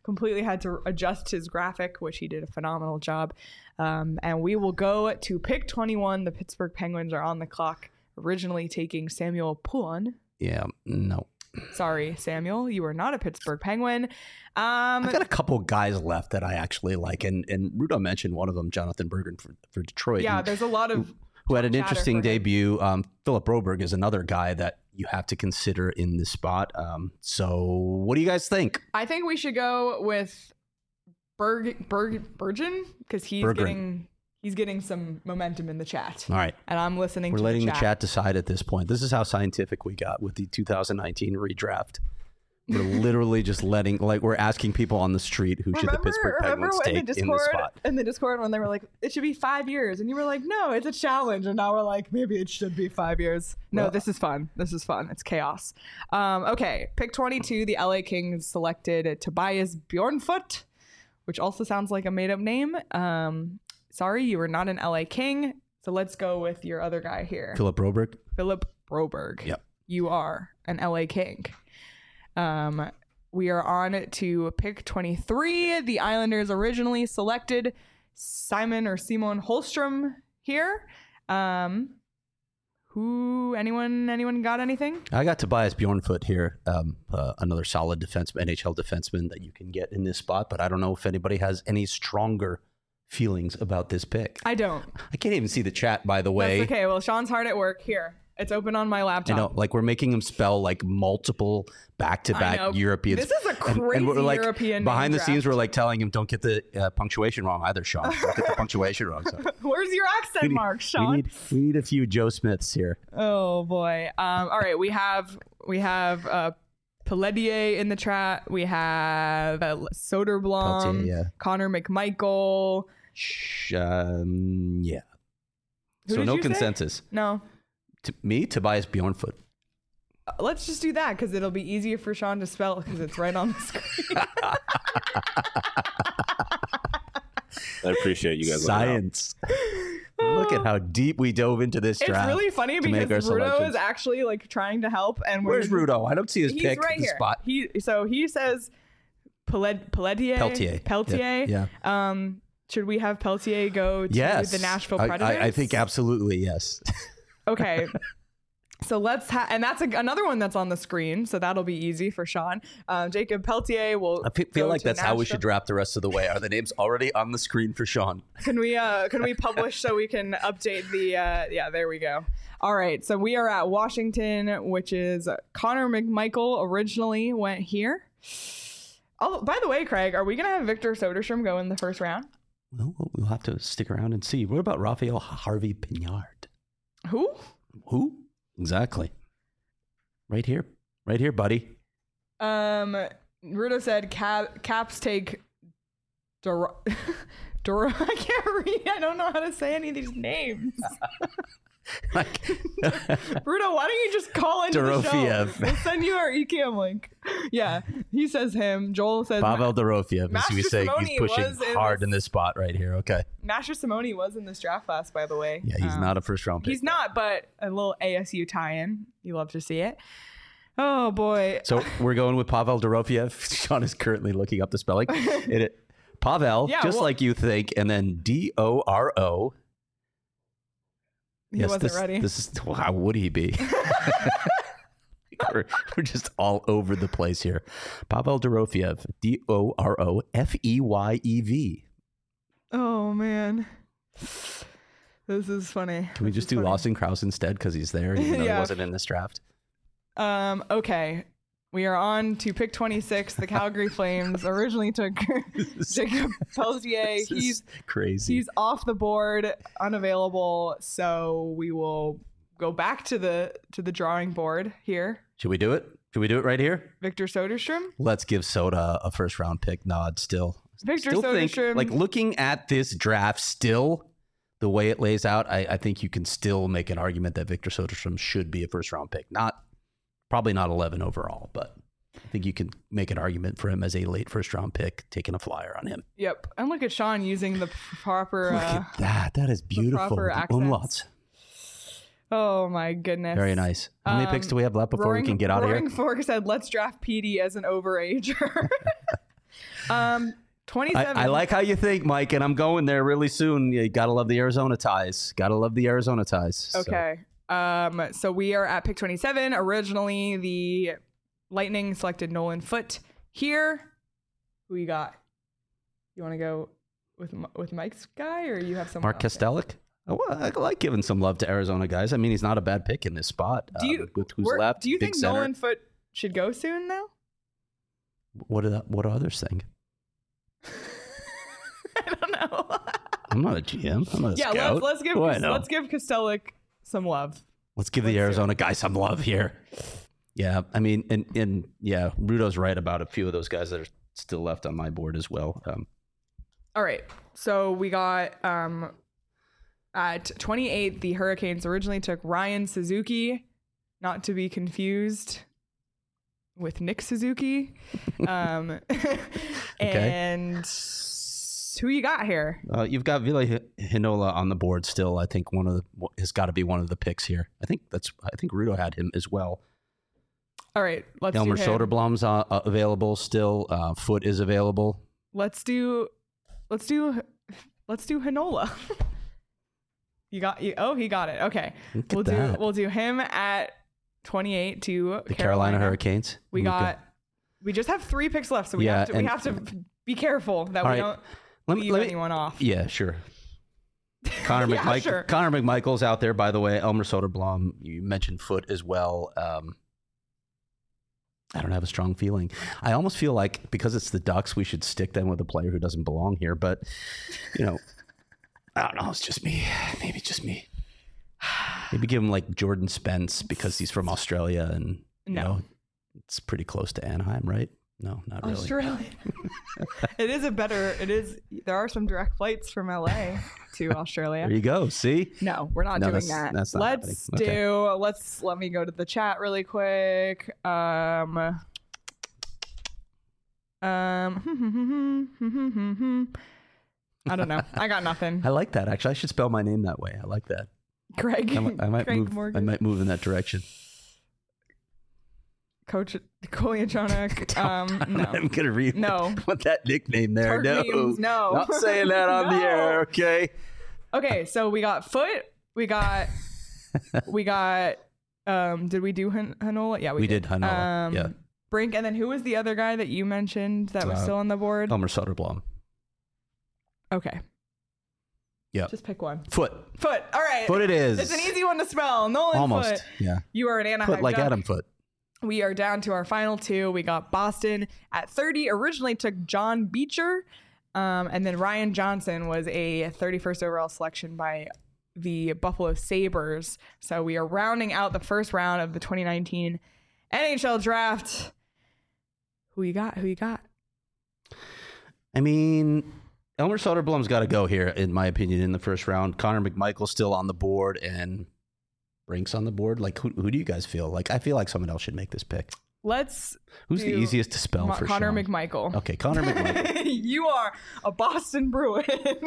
completely had to adjust his graphic, which he did a phenomenal job. Um, and we will go to pick twenty-one. The Pittsburgh Penguins are on the clock, originally taking Samuel Poulin. Yeah, no. Sorry, Samuel, you are not a Pittsburgh Penguin. Um, I got a couple guys left that I actually like, and and Rudo mentioned one of them, Jonathan Bergen for, for Detroit. yeah, and, there's a lot of who had an chatter interesting for him. debut. Um, Philip Broberg is another guy that you have to consider in this spot. Um, so what do you guys think? I think we should go with Berg Berg Bergen because he's Berggren. getting he's getting some momentum in the chat. All right. And I'm listening We're to letting the the chat. chat decide at this point. This is how scientific we got with the two thousand nineteen redraft. We're literally just letting, like, we're asking people on the street who should the Pittsburgh remember Penguins in take the in this Discord, spot. in the Discord when they were like, it should be five years. And you were like, no, it's a challenge. And now we're like, maybe it should be five years. No, Well- this is fun. This is fun. It's chaos. Um, okay. Pick twenty-two. The L A Kings selected Tobias Bjornfoot, which also sounds like a made up name. Um, sorry, you were not an L A King. So let's go with your other guy here. Philip Broberg. Philip Broberg. Yep. You are an L A King. Um, we are on to pick twenty-three. The Islanders originally selected Simon or Simon Holstrom here. Um, who? Anyone? Anyone got anything? I got Tobias Bjornfoot here, um, uh, another solid defense, N H L defenseman that you can get in this spot. But I don't know if anybody has any stronger feelings about this pick. I don't. I can't even see the chat, by the way. That's okay. Well, Sean's hard at work. Here, it's open on my I laptop. know, like we're making him spell like multiple I back-to-back know. Europeans. This is a And- crazy and we're like, European behind name the scenes, draft. we're like telling him, "Don't get the uh, punctuation wrong either, Sean. Don't get the punctuation wrong." So Where's your accent need- mark, Sean? we need we need a few Joe Smiths here. Oh boy. Um, all right, we have we have uh Pelletier in the chat. We have uh, Soderblom, Pelletier, yeah. Connor McMichael. Sh- um, yeah. Who so did no you say? consensus. No. To me, Tobias Bjornfoot. Uh, let's just do that because it'll be easier for Sean to spell because it's right on the screen. I appreciate you guys. looking out. Science. Look at how deep we dove into this It's draft. really funny to make because our Rudo selections. is actually like trying to help, and we're Where's Rudo? I don't see his He's pick. right the here. spot. He so he says Pellet, Pelletier. Peltier. Peltier. Yeah. Um, should we have Peltier go to Yes. the Nashville I- Predators? I, I think absolutely yes. Okay. So let's have, and that's a, another one that's on the screen, so that'll be easy for Sean. Um, Jacob Peltier will. I fe- feel go like to that's how we Nashville. should draft the rest of the way. Are the names already on the screen for Sean? Can we? Uh, can we publish so we can update the? Uh, yeah, there we go. All right, so we are at Washington, which is Connor McMichael originally went here. Oh, by the way, Craig, are we gonna have Victor Soderstrom go in the first round? Well, we'll have to stick around and see. What about Raphael Harvey Pinard? Who? Who? Exactly. Right here. Right here, buddy. Um, Rudo said Cap, Caps take Dor- Dor- I can't read. I don't know how to say any of these names. Like, Rudo, why don't you just call into the show? Dorofiev. We'll send you our eCam link. Yeah, he says him. Joel says Pavel Dorofiev, as Master we say, Simone he's pushing was in hard this- in this spot right here. Okay. Master Simone was in this draft class, by the way. Yeah, he's Um, not a first round pick. He's not, but a little A S U tie-in. You love to see it. Oh boy. So we're going with Pavel Dorofiev. Sean is currently looking up the spelling. It, it, Pavel, Yeah, just well- like you think, and then D O R O. He Yes, wasn't this, ready. This is well, how would he be? we're, we're just all over the place here. Pavel Dorofiev, D O R O F E Y E V. Oh man. This is funny. Can we This just is do funny. Lawson Krause instead because he's there, even though Yeah. he wasn't in this draft? Um, okay. We are on to pick twenty-six. The Calgary Flames originally took Jacob Peltier. This is He's crazy. he's off the board, unavailable. So we will go back to the to the drawing board here. Should we do it? Should we do it right here? Victor Soderstrom. Let's give Soda a first round pick nod still. Victor Still think, Soderstrom. like looking at this draft still, the way it lays out, I, I think you can still make an argument that Victor Soderstrom should be a first round pick. Not probably not eleven overall, but I think you can make an argument for him as a late first round pick, taking a flyer on him. Yep. And look at Sean using the proper. Look Uh, at that. That is beautiful. proper The accents. umlauts. oh my goodness. Very nice. How many Um, picks do we have left before Roaring, we can get out of Roaring here? Fork said, "Let's draft Petey as an overager." Um, twenty-seven. I, I like how you think, Mike, and I'm going there really soon. You gotta love the Arizona ties. Gotta love the Arizona ties. So. Okay. Um, so we are at pick twenty-seven. Originally, the Lightning selected Nolan Foote here. Who you got? You want to go with with Mike's guy, or you have someone Mark else there? Kastelic. Oh, well, I like giving some love to Arizona guys. I mean, he's not a bad pick in this spot. Do you, uh, with who's where- left? Do you big think center. Nolan Foote should go soon, though? What do that, what do others think? I don't know. I'm not a G M. I'm not a yeah, scout. let's let's give What do I know? let's give Kastelic some love. Let's give let's the do Arizona guy some love here. Yeah, I mean, and and yeah, Rudo's right about a few of those guys that are still left on my board as well. Um, All right. So we got um at twenty-eight, the Hurricanes originally took Ryan Suzuki, not to be confused with Nick Suzuki. Um and who you got here? uh, you've got Ville Hinola on the board still. I think one of the has got to be one of the picks here. I think that's. I think Rudo had him as well. All right, let's Elmer do him. Soderblom's uh, uh, available still. Uh, Foote is available. Let's do let's do let's do Hinola. You got you oh he got it. Okay. Look at We'll that. do we'll do him at twenty-eight to The Carolina Hurricanes. We Luka. got we just have three picks left, so we Yeah, have to we and- have to be careful that All we right. don't Let me- leave let me- anyone off. Yeah, sure. Connor Yeah, McMichael. sure. Connor McMichael's out there, by the way. Elmer Soderblom. You mentioned Foote as well. Um, I don't have a strong feeling. I almost feel like because it's the Ducks, we should stick them with a player who doesn't belong here. But you know, I don't know. It's just me. Maybe just me. Maybe give him like Jordan Spence because he's from Australia and you No. know it's pretty close to Anaheim, right? No, not really. Australia. It is a better it is there are some direct flights from L A to Australia. There you go. See. No, we're not No, doing that's- that. that's not let's happening. Okay. do let's let me go to the chat really quick. Um Um I don't know. I got nothing. I like that. Actually, I should spell my name that way. I like that. Greg. I might, I might Greg move. Morgan. I might move in that direction. Coach Kolyachonik. Um no. I'm gonna read. No. What that nickname there? Tart No, memes, no. not saying that on the No. air. Okay. Okay, so we got Foote. We got we got um did we do Han- Hanola? Yeah, we, We did Hanola, Um yeah. Brink, and then who was the other guy that you mentioned that was Uh, still on the board? Elmer Soderblom. Okay. Yep. Just pick one. Foot. Foote. All right. Foot. It is. It's an easy one to spell. Nolan Almost. Foote. Yeah. You are an Anaheim Foot like Duck. Adam Foot. We are down to our final two. We got Boston at thirty. Originally took John Beecher. Um, and then Ryan Johnson was a thirty-first overall selection by the Buffalo Sabres. So we are rounding out the first round of the twenty nineteen N H L draft. Who you got? Who you got? I mean, Elmer Soderblom's got to go here, in my opinion, in the first round. Connor McMichael's still on the board, and Brink's on the board. Like, who, who do you guys feel? Like, I feel like someone else should make this pick. Let's Who's the do easiest to spell Ma- for Connor Sean? McMichael. Okay, Connor McMichael. You are a Boston Bruin.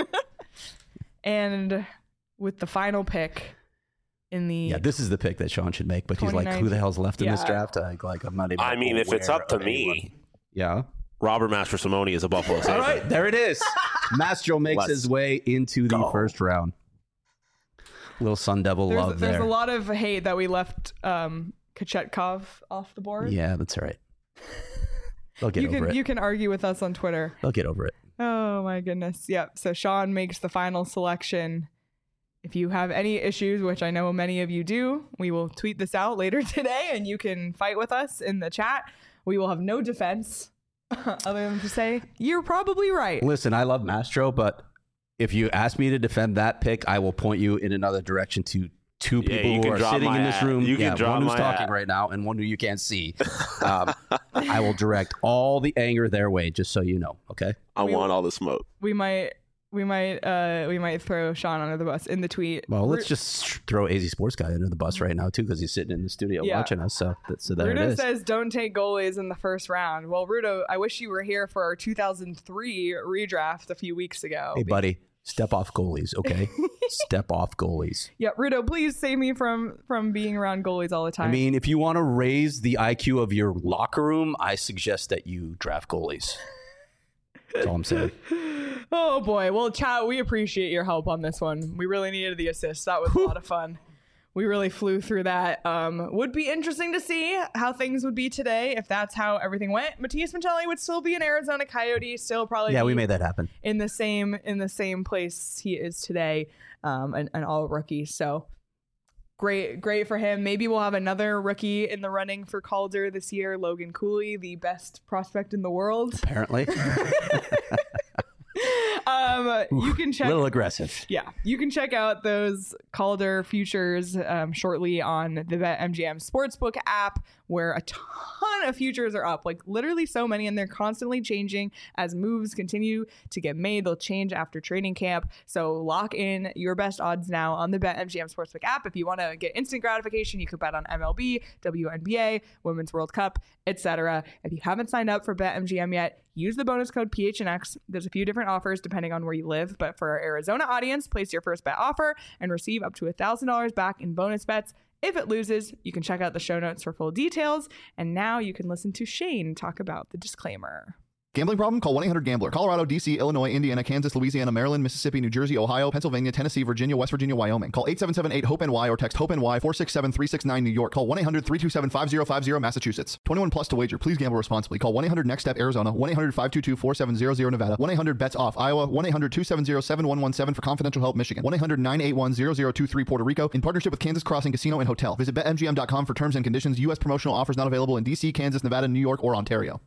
And with the final pick in the Yeah, this is the pick that Sean should make, but he's like, who the hell's left in this Yeah. draft? I, like, I'm not even I mean, if it's aware up to of anyone. me, Yeah. Robert Master Simone is a Buffalo Sabre. All right, there it is. Mastro makes Let's his way into the go. first round. Little Sun Devil there's, love there's there. a lot of hate that we left um Kachetkov off the board. Yeah, that's all right. They'll get you over can it. you can argue with us on Twitter. They'll get over it. Oh my goodness. Yep. So Sean makes the final selection. If you have any issues, which I know many of you do, we will tweet this out later today and you can fight with us in the chat. We will have no defense other than to say, you're probably right. Listen, I love Mastro, but if you ask me to defend that pick, I will point you in another direction to two Yeah, people you who can are drop sitting my in this hat. room. You can yeah, drop one who's my talking hat. right now and one who you can't see. Um, I will direct all the anger their way, just so you know. Okay. I We- want all the smoke. We might we might uh we might throw Sean under the bus in the tweet. Well, let's Ru- just throw A Z Sports Guy under the bus right now too, because he's sitting in the studio Yeah. watching us. So, that, so there it Rudo is. says don't take goalies in the first round. Well, Rudo, I wish you were here for our two thousand three redraft a few weeks ago. Hey, buddy, step off goalies, okay? Step off goalies. Yeah, Rudo, please save me from from being around goalies all the time. I mean, if you want to raise the I Q of your locker room, I suggest that you draft goalies. That's all I'm saying. Oh boy. Well, chat, we appreciate your help on this one. We really needed the assist. That was a lot of fun. We really flew through that. Um, would be interesting to see how things would be today if that's how everything went. Matias Macelli would still be an Arizona Coyote, still probably Yeah, be we made that happen. in the same in the same place he is today, um, an, an all rookie. So great, great for him. Maybe we'll have another rookie in the running for Calder this year. Logan Cooley, the best prospect in the world. Apparently. um, you can check. A little aggressive. Yeah, you can check out those Calder futures um, shortly on the BetMGM Sportsbook app, where a ton of futures are up. Like literally so many, and they're constantly changing as moves continue to get made. They'll change after training camp. So lock in your best odds now on the BetMGM Sportsbook app. If you want to get instant gratification, you can bet on M L B, W N B A, Women's World Cup, et cetera. If you haven't signed up for BetMGM yet, use the bonus code P H N X. There's a few different offers depending on where you live, but for our Arizona audience, place your first bet offer and receive up to one thousand dollars back in bonus bets. If it loses, you can check out the show notes for full details. And now you can listen to Shane talk about the disclaimer. Gambling problem? Call one eight hundred gambler. Colorado, D C, Illinois, Indiana, Kansas, Louisiana, Maryland, Mississippi, New Jersey, Ohio, Pennsylvania, Tennessee, Virginia, West Virginia, Wyoming. Call eight seven seven eight hope N Y or text HOPE-NY four six seven three six nine New York. Call one eight hundred three two seven five zero five zero Massachusetts. twenty-one plus to wager. Please gamble responsibly. Call one eight hundred next step Arizona. one eight hundred five two two four seven zero zero Nevada. one eight hundred bets off Iowa. one eight hundred two seven zero seven one one seven for confidential help Michigan. one eight hundred nine eight one zero zero two three Puerto Rico. In partnership with Kansas Crossing Casino and Hotel. Visit bet M G M dot com for terms and conditions. U S promotional offers not available in D C, Kansas, Nevada, New York, or Ontario.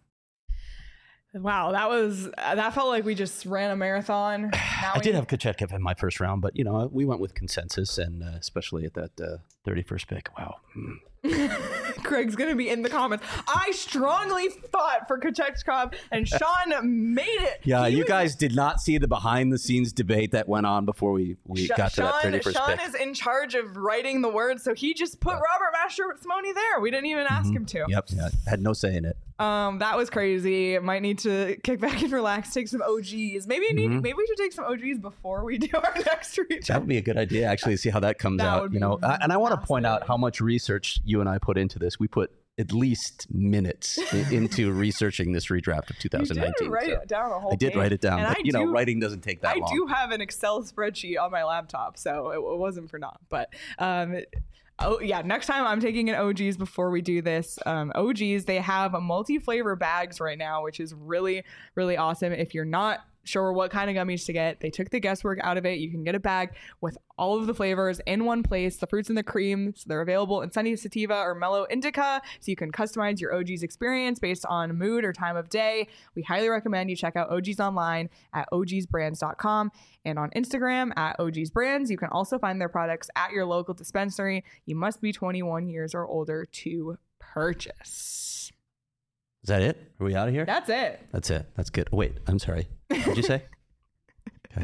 Wow, that was uh, that felt like we just ran a marathon. Now I we- did have Kochetkov in my first round, but you know we went with consensus, and uh, especially at that uh, thirty-first pick. Wow. Mm. Craig's gonna be in the comments. I strongly thought for Kochetkov, and Sean made it. Yeah, He you was- guys did not see the behind-the-scenes debate that went on before we, we Sh- got to that Sean, thirty-first Sean pick. is in charge of writing the words, so he just put Robert Mastrosimone there. We didn't even ask him to. Yep, yeah, had no say in it. Um, that was crazy. Might need to kick back and relax, take some O Gs. Maybe I need, maybe we should take some O Gs before we do our next reach. That would be a good idea, actually, to see how that comes That out. would You be know, I- and I want to point out fascinating. how much research you and I put into this. We put at least minutes i- into researching this redraft of two You thousand did nineteen. write so it down a whole I did page. write it down, And but I you know, do- writing doesn't take that I long. do have an Excel spreadsheet on my laptop, so it, it wasn't for naught. But um, oh yeah, next time I'm taking an O Gs before we do this. Um, O Gs, they have multi-flavor bags right now, which is really, really awesome. If you're not sure what kind of gummies to get, they took the guesswork out of it. You can get a bag with all of the flavors in one place, the fruits and the cream. So they're available in Sunny Sativa or Mellow Indica, so you can customize your O Gs experience based on mood or time of day. We highly recommend you check out O Gs online at O Gs brands dot com and on Instagram at O Gs brands. You can also find their products at your local dispensary. You must be twenty-one years or older to purchase. Is that it? Are we out of here? That's it. That's it. That's good. Oh, wait, I'm sorry. What did you say? Okay.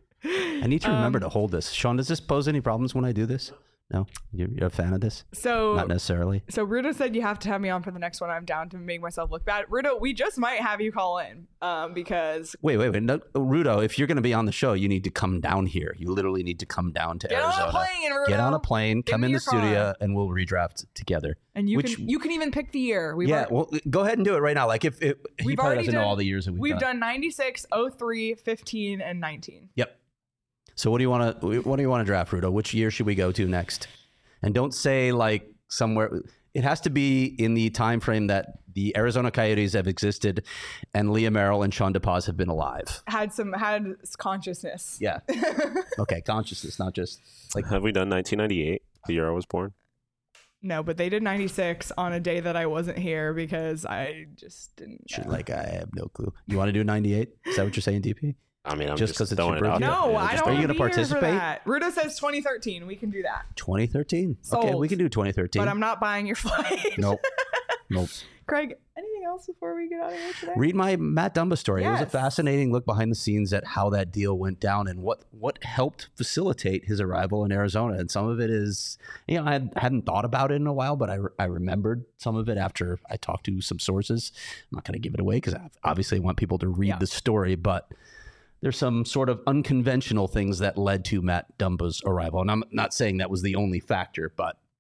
I need to remember Um, to hold this. Sean, does this pose any problems when I do this? No? You're, you're a fan of this? So Not necessarily. So Rudo said you have to have me on for the next one. I'm down to make myself look bad. Rudo, we just might have you call in um, because Wait, wait, wait. No, Rudo, if you're going to be on the show, you need to come down here. You literally need to come down to get Arizona. on a plane, Rudo. Get on a plane, Give come me in your the studio, car. and we'll redraft together. And you Which- can you can even pick the year. We've yeah, already, well, go ahead and do it right now. Like, if it, he We've probably already doesn't know done- all the years that we've, we've done ninety-six, oh three, fifteen, and nineteen. Yep. So what do you want to what do you want to draft, Rudo? Which year should we go to next? And don't say like somewhere. It has to be in the time frame that the Arizona Coyotes have existed, and Leah Merrill and Sean DePaz have been alive. Had some had consciousness. Yeah. Okay, consciousness, not just like. Have we done nineteen ninety-eight, the year I was born? No, but they did ninety-six on a day that I wasn't here because I just didn't. Should, know. like I have no clue. You want to do ninety-eight? Is that what you're saying, D P? I mean, I'm Just just, 'cause it's throwing your it out birthday? there. No, Yeah, I just don't Are you want to gonna be here for participate? that. Rudo says twenty thirteen. We can do that. twenty thirteen. Okay, Sold. we can do twenty thirteen. But I'm not buying your flight. Nope. Nope. Craig, anything else before we get out of here today? Read my Matt Dumba story. It was a Yes. fascinating look behind the scenes at how that deal went down and what what helped facilitate his arrival in Arizona. And some of it is, you know, I had, hadn't thought about it in a while, but I, I remembered some of it after I talked to some sources. I'm not going to give it away because I obviously want people to read Yeah. the story, but there's some sort of unconventional things that led to Matt Dumba's arrival. And I'm not saying that was the only factor, but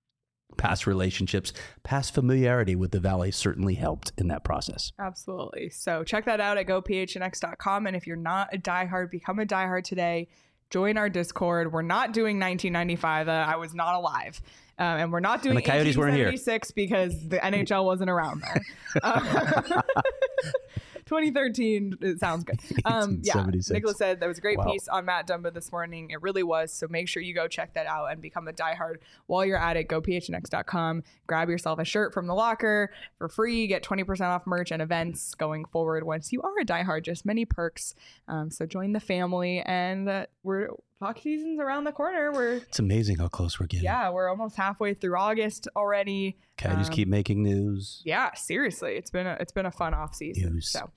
past relationships, past familiarity with the Valley certainly helped in that process. Absolutely. So check that out at go p h n x dot com. And if you're not a diehard, become a diehard today. Join our Discord. We're not doing nineteen ninety-five. Uh, I was not alive. Um, and we're not doing And the Coyotes weren't here. eighteen seventy-six because the N H L wasn't around there. Uh, twenty thirteen, it sounds good. Um, yeah, Nicholas said that was a great Wow. piece on Matt Dumba this morning. It really was. So make sure you go check that out and become a diehard while you're at it. go p h n x dot com. Grab yourself a shirt from the locker for free. Get twenty percent off merch and events going forward once you are a diehard. Just many perks. Um, so join the family. And uh, we're hockey season's around the corner. We're It's amazing how close we're getting. yeah, we're almost halfway through August already. Coyotes Um, keep making news. Yeah, seriously, it's been a it's been a fun off season. News. So,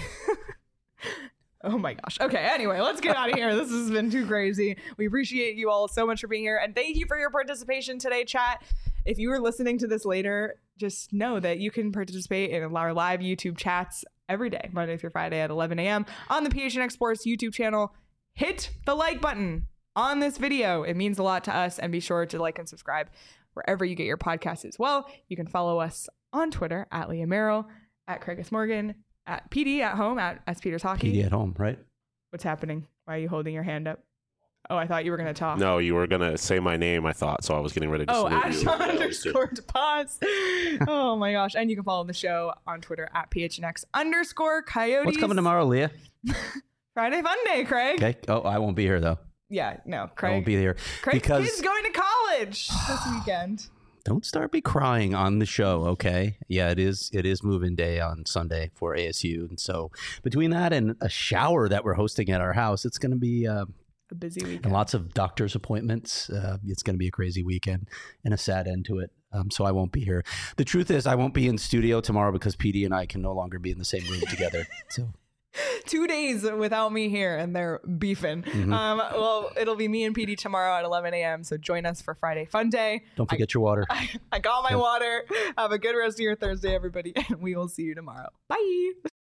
oh my gosh. Okay. Anyway, let's get out of here. This has been too crazy. We appreciate you all so much for being here, and thank you for your participation today, chat. If you were listening to this later, just know that you can participate in our live YouTube chats every day, Monday through Friday at eleven a.m. on the P H N X Sports YouTube channel. Hit the like button on this video. It means a lot to us, and be sure to like and subscribe wherever you get your podcasts as well. You can follow us on Twitter at Leah Merrill, at Craigus Morgan, at P D at home, at S Peters Hockey. P D at home, right? What's happening? Why are you holding your hand up? Oh, I thought you were going to talk. No, you were going to say my name, I thought, so I was getting ready to Oh, salute Ash you. underscore pause. Oh my gosh. And you can follow the show on Twitter at P H N X underscore Coyotes. What's coming tomorrow, Leah? Friday Fun Day, Craig. Okay. Oh, I won't be here though. Yeah, no, I Craig. won't be here Craig's because kid's going to college this weekend. don't start me crying on the show, okay? Yeah, it is. It is move-in day on Sunday for A S U, and so between that and a shower that we're hosting at our house, it's going to be uh, A busy weekend. and lots of doctor's appointments. Uh, it's going to be a crazy weekend and a sad end to it. Um, so I won't be here. The truth is, I won't be in studio tomorrow because P D and I can no longer be in the same room together. So. Two days without me here, and they're beefing. Mm-hmm. Um, well, it'll be me and P D tomorrow at eleven a.m. So join us for Friday Fun Day. Don't forget your water. I got my water. Have a good rest of your Thursday, everybody, and we will see you tomorrow. Bye.